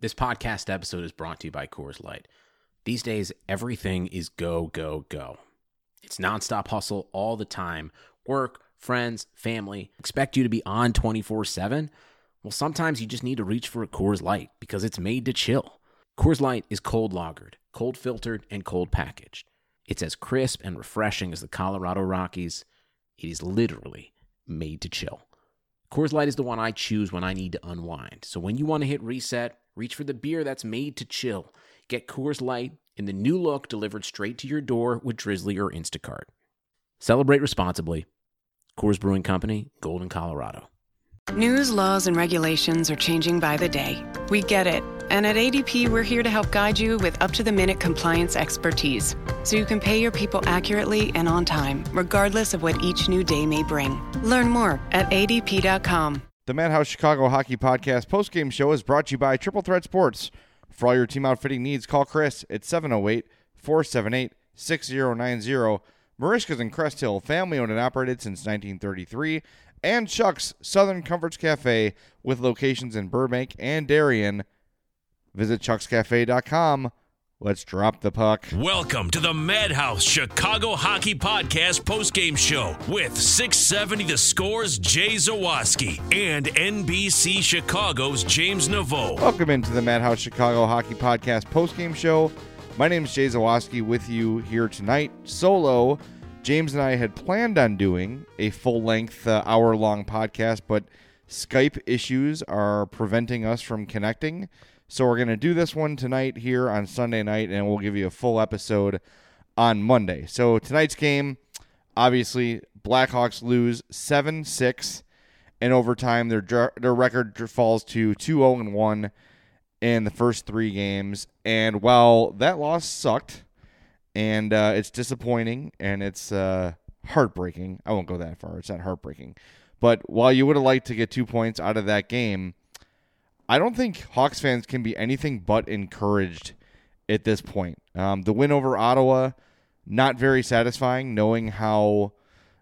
This podcast episode is brought to you by Coors Light. These days, everything is go, go, go. It's nonstop hustle all the time. Work, friends, family, expect you to be on 24/7. Well, sometimes you just need to reach for a Coors Light because it's made to chill. Coors Light is cold lagered, cold filtered, and cold packaged. It's as crisp and refreshing as the Colorado Rockies. It is literally made to chill. Coors Light is the one I choose when I need to unwind. So when you want to hit reset, reach for the beer that's made to chill. Get Coors Light in the new look delivered straight to your door with Drizzly or Instacart. Celebrate responsibly. Coors Brewing Company, Golden, Colorado. News, laws, and regulations are changing by the day. We get it. And at ADP, we're here to help guide you with up-to-the-minute compliance expertise, so you can pay your people accurately and on time, regardless of what each new day may bring. Learn more at adp.com. The Madhouse Chicago Hockey Podcast postgame show is brought to you by Triple Threat Sports. For all your team outfitting needs, call Chris at 708-478-6090. Marishka's in Crest Hill, family-owned and operated since 1933. And Chuck's Southern Comforts Cafe with locations in Burbank and Darien. Visit chuckscafe.com. Let's drop the puck. Welcome to the Madhouse Chicago Hockey Podcast postgame show with 670 The Score's Jay Zawaski and NBC Chicago's James Naveau. Welcome into the Madhouse Chicago Hockey Podcast postgame show. My name is Jay Zawaski with you here tonight. Solo, James and I had planned on doing a full-length, hour-long podcast, but Skype issues are preventing us from connecting. So we're going to do this one tonight here on Sunday night, and we'll give you a full episode on Monday. So tonight's game, obviously, Blackhawks lose 7-6 in overtime. Their record falls to 2-0-1 in the first three games. And while that loss sucked, and it's disappointing, and it's heartbreaking. I won't go that far. It's not heartbreaking. But while you would have liked to get 2 points out of that game, I don't think Hawks fans can be anything but encouraged at this point. The win over Ottawa, not very satisfying, knowing how,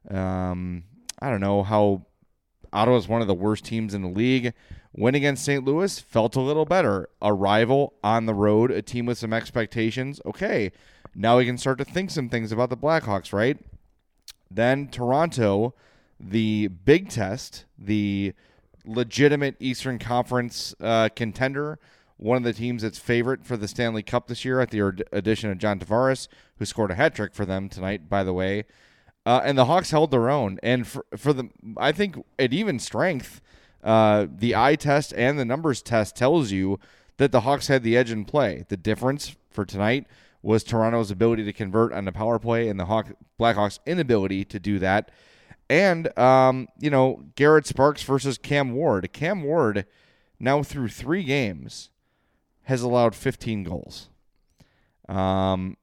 how Ottawa is one of the worst teams in the league. Win against St. Louis felt a little better. A rival on the road, a team with some expectations. Okay, now we can start to think some things about the Blackhawks, right? Then Toronto, the big test, the legitimate Eastern Conference contender, one of the teams that's favorite for the Stanley Cup this year at the addition of John Tavares, who scored a hat trick for them tonight, by the way. And the Hawks held their own. And for the, I think at even strength, the eye test and the numbers test tells you that the Hawks had the edge in play. The difference for tonight was Toronto's ability to convert on the power play and the Blackhawks' inability to do that. And, Garrett Sparks versus Cam Ward. Cam Ward, now through 3 games, has allowed 15 goals. Now,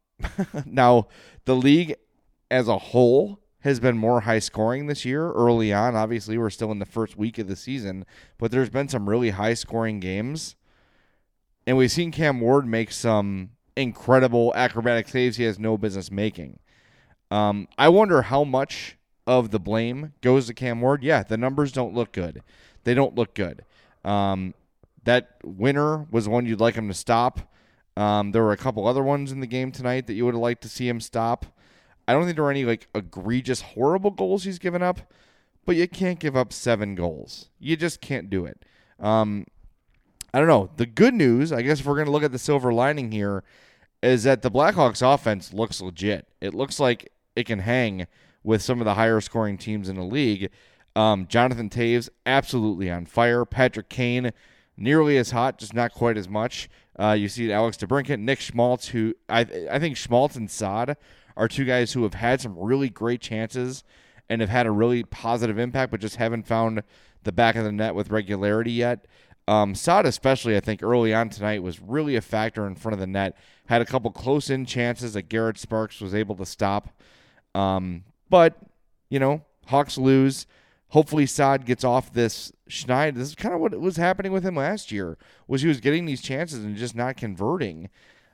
the league as a whole has been more high-scoring this year. Early on, obviously, we're still in the first week of the season, but there's been some really high-scoring games. And we've seen Cam Ward make some incredible acrobatic saves he has no business making. I wonder how much of the blame goes to Cam Ward. Yeah, the numbers don't look good. They don't look good. That winner was one you'd like him to stop. There were a couple other ones in the game tonight that you would have liked to see him stop. I don't think there were any egregious, horrible goals he's given up, but you can't give up 7 goals. You just can't do it. I don't know. The good news, I guess if we're going to look at the silver lining here, is that the Blackhawks offense looks legit. It looks like it can hang with some of the higher scoring teams in the league. Jonathan Toews, absolutely on fire. Patrick Kane, nearly as hot, just not quite as much. You see Alex DeBrincat, Nick Schmaltz, who I think Schmaltz and Saad are 2 guys who have had some really great chances and have had a really positive impact, but just haven't found the back of the net with regularity yet. Saad especially, I think, early on tonight was really a factor in front of the net. Had a couple close-in chances that Garrett Sparks was able to stop. But, Hawks lose. Hopefully Saad gets off this schneid. This is kind of what was happening with him last year, was he was getting these chances and just not converting.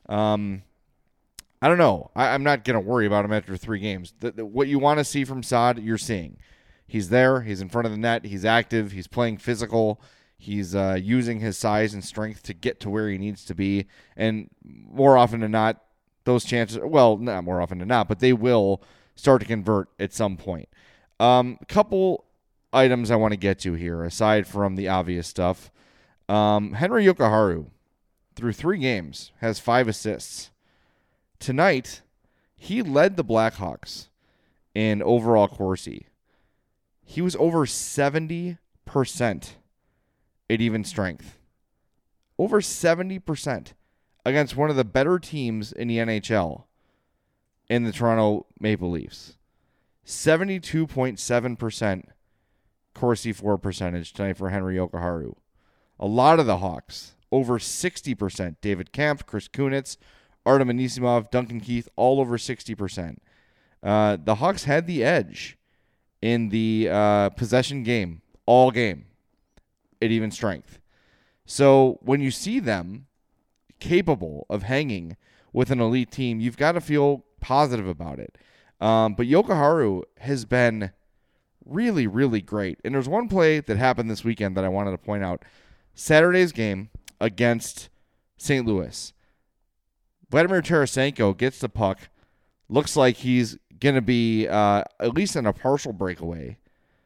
I don't know. I'm not going to worry about him after 3 games. What you want to see from Saad, you're seeing. He's there. He's in front of the net. He's active. He's playing physical. He's using his size and strength to get to where he needs to be. And more often than not, those chances, well, not more often than not, but they will start to convert at some point. A couple items I want to get to here, aside from the obvious stuff. Henry Yokoharu, through 3 games, has 5 assists. Tonight, he led the Blackhawks in overall Corsi. He was over 70% at even strength. Over 70% against one of the better teams in the NHL in the Toronto Maple Leafs. 72.7% Corsi for percentage tonight for Henry Yokoharu. A lot of the Hawks, over 60%. David Kampf, Chris Kunitz, Artem Anisimov, Duncan Keith, all over 60%. The Hawks had the edge in the possession game, all game, at even strength. So when you see them capable of hanging with an elite team, you've got to feel positive about it. But Yokoharu has been really, really great. And there's one play that happened this weekend that I wanted to point out. Saturday's game against St. Louis. Vladimir Tarasenko gets the puck. Looks like he's going to be at least in a partial breakaway.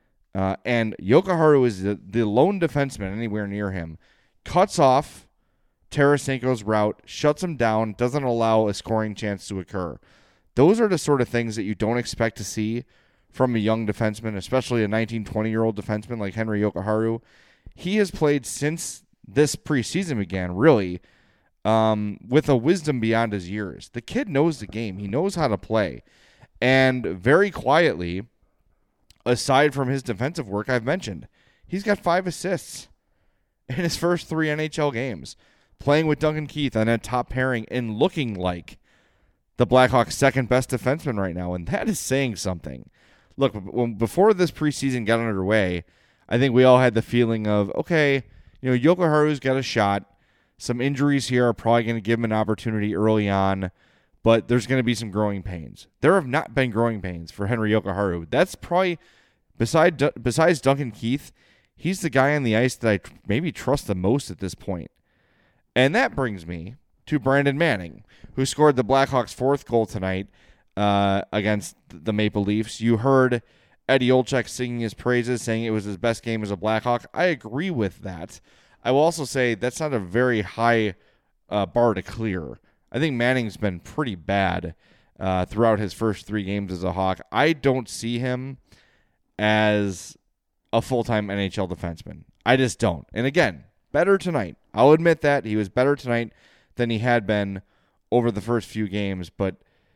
And Yokoharu is the lone defenseman anywhere near him. Cuts off Tarasenko's route, shuts him down, doesn't allow a scoring chance to occur. Those are the sort of things that you don't expect to see from a young defenseman, especially a 19, 20-year-old defenseman like Henry Yokoharu. He has played since this preseason began, really, with a wisdom beyond his years. The kid knows the game. He knows how to play. And very quietly, aside from his defensive work I've mentioned, he's got 5 assists in his first 3 NHL games, playing with Duncan Keith on that top pairing and looking like the Blackhawks' second-best defenseman right now, and that is saying something. Look, before this preseason got underway, I think we all had the feeling of, okay, Yokoharu's got a shot. Some injuries here are probably going to give him an opportunity early on, but there's going to be some growing pains. There have not been growing pains for Henry Yokoharu. That's probably, besides Duncan Keith, he's the guy on the ice that I maybe trust the most at this point. And that brings me to Brandon Manning, who scored the Blackhawks' 4th goal tonight against the Maple Leafs. You heard Eddie Olczyk singing his praises, saying it was his best game as a Blackhawk. I agree with that. I will also say that's not a very high bar to clear. I think Manning's been pretty bad throughout his first 3 games as a Hawk. I don't see him as a full-time NHL defenseman. I just don't. And again, better tonight. I'll admit that. He was better tonight than he had been over the first few games. But,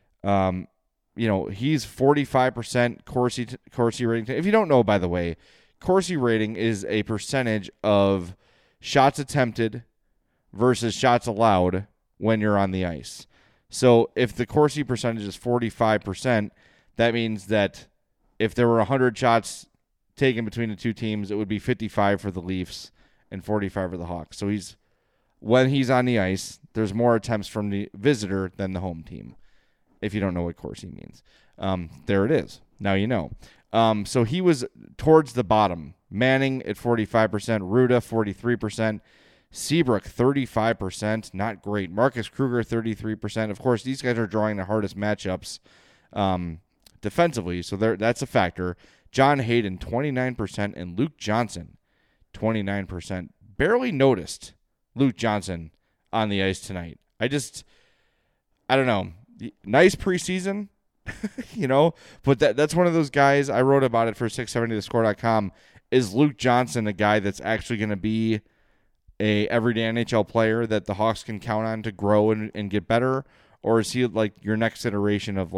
he's 45% Corsi rating. If you don't know, by the way, Corsi rating is a percentage of shots attempted versus shots allowed when you're on the ice. So if the Corsi percentage is 45%, that means that if there were 100 shots taken between the two teams, it would be 55 for the Leafs and 45 for the Hawks. So when he's on the ice, there's more attempts from the visitor than the home team, if you don't know what Corsi means. There it is. Now you know. So he was towards the bottom. Manning at 45%, Ruda 43%, Seabrook 35%, not great. Marcus Kruger 33%. Of course, these guys are drawing the hardest matchups defensively, so that's a factor. John Hayden 29% and Luke Johnson 29%. Barely noticed Luke Johnson on the ice tonight. I don't know. Nice preseason, but that's one of those guys. I wrote about it for 670thescore.com. Is Luke Johnson a guy that's actually going to be a everyday NHL player that the Hawks can count on to grow and get better? Or is he like your next iteration of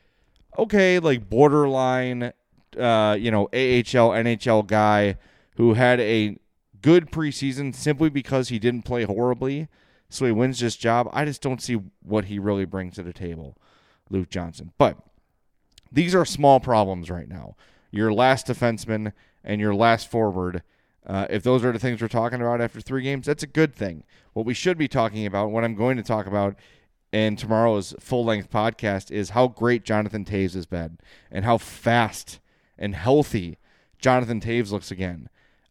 borderline, AHL, NHL guy who had a good preseason simply because he didn't play horribly, so he wins this job? I just don't see what he really brings to the table, Luke Johnson. But these are small problems right now. Your last defenseman and your last forward, if those are the things we're talking about after 3 games, that's a good thing. What we should be talking about, what I'm going to talk about in tomorrow's full-length podcast, is how great Jonathan Toews has been and how fast and healthy Jonathan Toews looks again.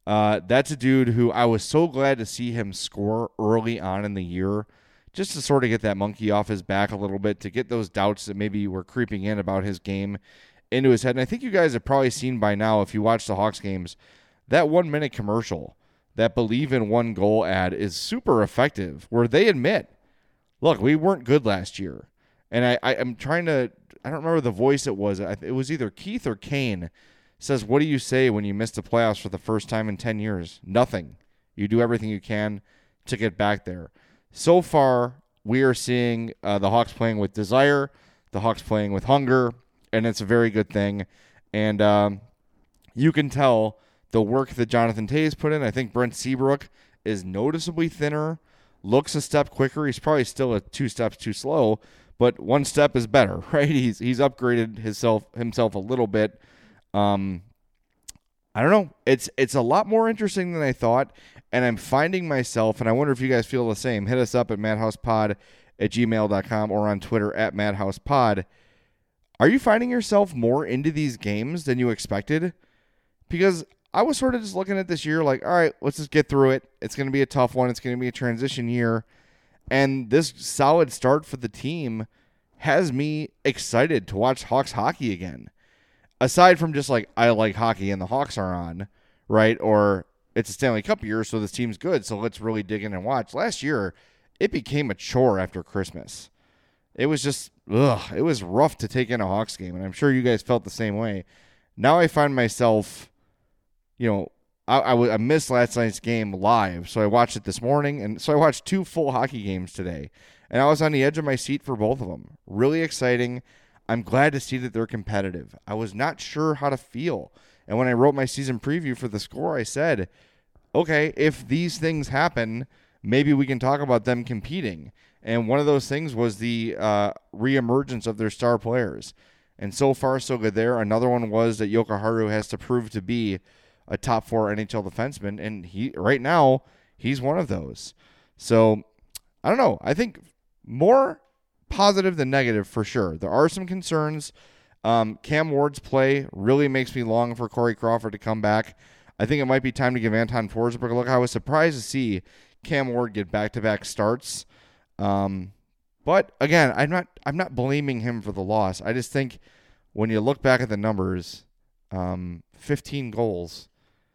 That's a dude who I was so glad to see him score early on in the year, just to sort of get that monkey off his back a little bit, to get those doubts that maybe were creeping in about his game into his head. And I think you guys have probably seen by now, if you watch the Hawks games, that 1-minute commercial, that Believe in One Goal ad is super effective, where they admit, look, we weren't good last year. And I'm trying to, I don't remember the voice it was. It was either Keith or Kane says, what do you say when you miss the playoffs for the first time in 10 years? Nothing. You do everything you can to get back there. So far, we are seeing the Hawks playing with desire, the Hawks playing with hunger, and it's a very good thing. And you can tell the work that Jonathan Toews put in. I think Brent Seabrook is noticeably thinner, looks a step quicker. He's probably still 2 steps too slow, but 1 step is better, right? He's upgraded himself a little bit. I don't know. It's a lot more interesting than I thought, and I'm finding myself, and I wonder if you guys feel the same. Hit us up at madhousepod@gmail.com or on Twitter at madhousepod. Are you finding yourself more into these games than you expected? Because I was sort of just looking at this year like, all right, let's just get through it. It's going to be a tough one. It's going to be a transition year. And this solid start for the team has me excited to watch Hawks hockey again. Aside from just like, I like hockey and the Hawks are on, right? Or it's a Stanley Cup year, so this team's good, so let's really dig in and watch. Last year, it became a chore after Christmas. It was just, it was rough to take in a Hawks game, and I'm sure you guys felt the same way. Now I find myself, I missed last night's game live, so I watched it this morning, and so I watched 2 full hockey games today, and I was on the edge of my seat for both of them. Really exciting. I'm glad to see that they're competitive. I was not sure how to feel, and when I wrote my season preview for The Score, I said, okay, if these things happen, maybe we can talk about them competing, and one of those things was the reemergence of their star players, and so far so good there. Another one was that Jokic Haru has to prove to be a top 4 NHL defenseman, and right now he's one of those. So I don't know. I think more positive than negative for sure. There are some concerns. Cam Ward's play really makes me long for Corey Crawford to come back. I think it might be time to give Anton Forsberg a look. I was surprised to see Cam Ward get back-to-back starts. But again, I'm not blaming him for the loss. I just think when you look back at the numbers, 15 goals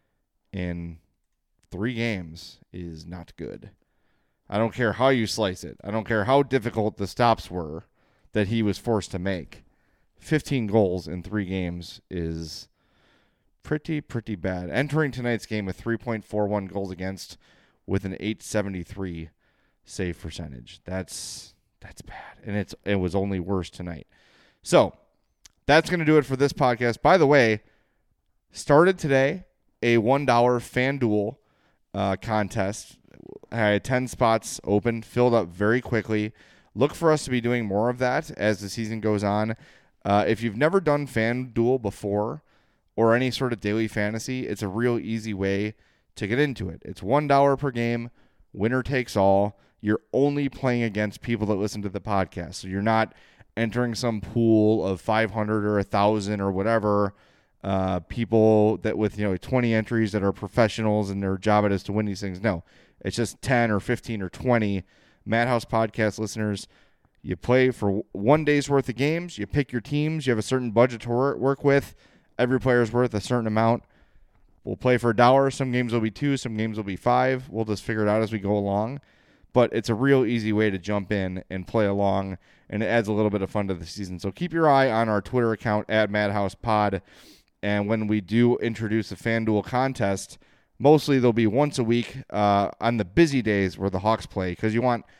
in 3 games is not good. I don't care how you slice it. I don't care how difficult the stops were that he was forced to make. 15 goals in 3 games is pretty bad. Entering tonight's game with 3.41 goals against with an .873 save percentage. That's bad. And it was only worse tonight. So that's going to do it for this podcast. By the way, started today a $1 FanDuel contest. I had 10 spots open, filled up very quickly. Look for us to be doing more of that as the season goes on. If you've never done FanDuel before or any sort of daily fantasy, it's a real easy way to get into it. It's $1 per game, winner takes all. You're only playing against people that listen to the podcast. So you're not entering some pool of 500 or 1,000 or whatever people that with 20 entries that are professionals and their job it is to win these things. No, it's just 10 or 15 or 20 Madhouse podcast listeners. You play for 1 day's worth of games. You pick your teams. You have a certain budget to work with. Every player is worth a certain amount. We'll play for $1. Some games will be $2. Some games will be $5. We'll just figure it out as we go along. But it's a real easy way to jump in and play along, and it adds a little bit of fun to the season. So keep your eye on our Twitter account at MadhousePod. And when we do introduce a FanDuel contest, mostly they'll be once a week on the busy days where the Hawks play, because you want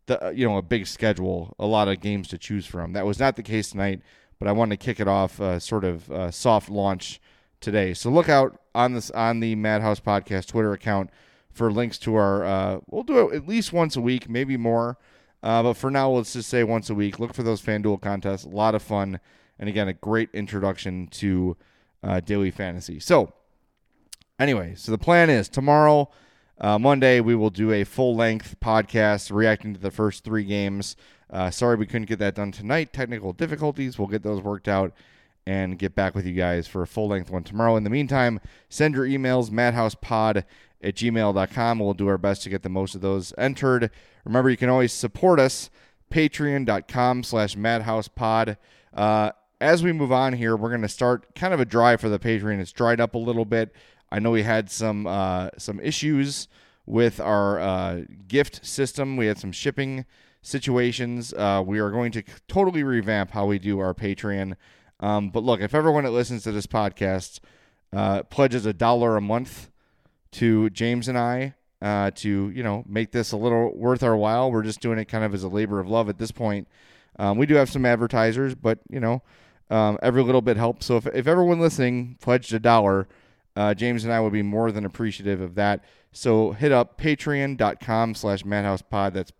a big schedule, a lot of games to choose from. That was not the case tonight, but I wanted to kick it off sort of soft launch today. So look out on the Madhouse Podcast Twitter account for links to our we'll do it at least once a week, maybe more. But for now, let's just say once a week. Look for those FanDuel contests. A lot of fun. And again, a great introduction to daily fantasy. So anyway, so the plan is tomorrow, Monday, we will do a full-length podcast reacting to the first 3 games. Sorry we couldn't get that done tonight. Technical difficulties. We'll get those worked out. and get back with you guys for a full-length one tomorrow. In the meantime, send your emails, madhousepod@gmail.com. We'll do our best to get the most of those entered. Remember, you can always support us, patreon.com/madhousepod. As we move on here, we're going to start kind of a drive for the Patreon. It's dried up a little bit. I know we had some issues with our gift system. We had some shipping situations. We are going to totally revamp how we do our Patreon. But look, if everyone that listens to this podcast pledges $1 a month to James and I to make this a little worth our while, we're just doing it kind of as a labor of love at this point. We do have some advertisers, but every little bit helps. So if everyone listening pledged $1, James and I would be more than appreciative of that. So hit up patreon.com/madhousepod. That's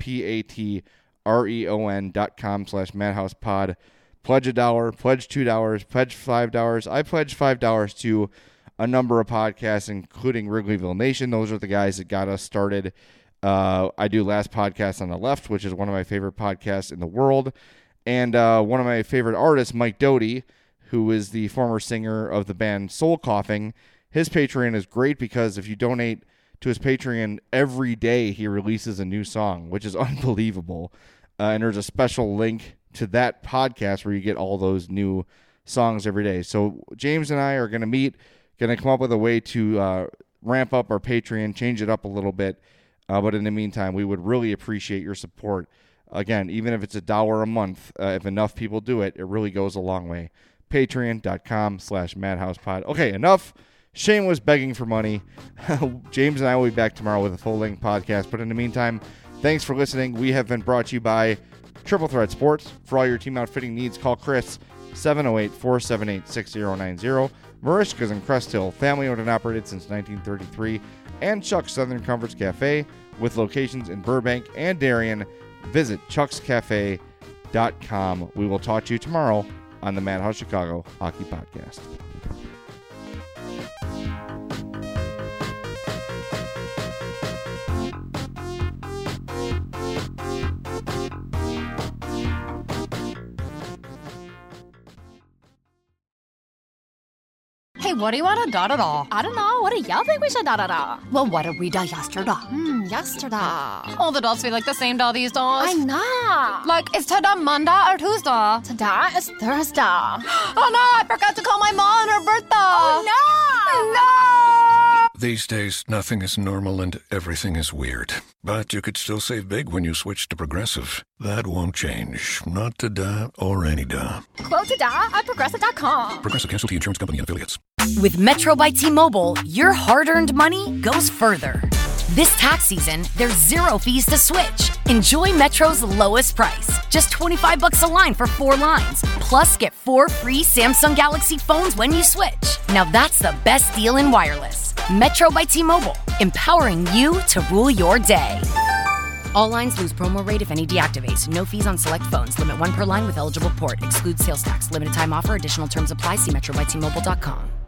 patreon.com/madhousepod. Pledge $1, pledge $2, pledge $5. I pledge $5 to a number of podcasts, including Wrigleyville Nation. Those are the guys that got us started. I do Last Podcast on the Left, which is one of my favorite podcasts in the world. And one of my favorite artists, Mike Doty, who is the former singer of the band Soul Coughing. His Patreon is great because if you donate to his Patreon every day, he releases a new song, which is unbelievable. And there's a special link to that podcast where you get all those new songs every day. So James and I are going to meet, going to come up with a way to ramp up our Patreon, change it up a little bit. But in the meantime, we would really appreciate your support. Again, even if it's $1 a month, if enough people do it, it really goes a long way. Patreon.com/madhousepod. Okay, enough shameless begging for money. James and I will be back tomorrow with a full-length podcast. But in the meantime, thanks for listening. We have been brought to you by Triple Threat Sports. For all your team outfitting needs, call Chris, 708-478-6090. Marishka's in Crest Hill, family-owned and operated since 1933. And Chuck's Southern Comforts Cafe, with locations in Burbank and Darien. Visit chuckscafe.com. We will talk to you tomorrow on the Madhouse Chicago Hockey Podcast. Hey, what do you want to da-da-da? I don't know. What do y'all think we should da-da-da? Well, what did we da yesterday? Yesterday. All the days feel like the same day these days. I know. Like, is today Monday or Tuesday? Today is Thursday. Oh, no, I forgot to call my mom on her birthday. Oh, no. No! These days, nothing is normal and everything is weird. But you could still save big when you switch to Progressive. That won't change. Not today or any day. Quote today at Progressive.com. Progressive Casualty Insurance Company and Affiliates. With Metro by T-Mobile, your hard-earned money goes further. This tax season, there's 0 fees to switch. Enjoy Metro's lowest price. Just $25 a line for 4 lines. Plus, get 4 free Samsung Galaxy phones when you switch. Now that's the best deal in wireless. Metro by T-Mobile, empowering you to rule your day. All lines lose promo rate if any deactivates. No fees on select phones. Limit 1 per line with eligible port. Excludes sales tax. Limited time offer. Additional terms apply. See metrobytmobile.com.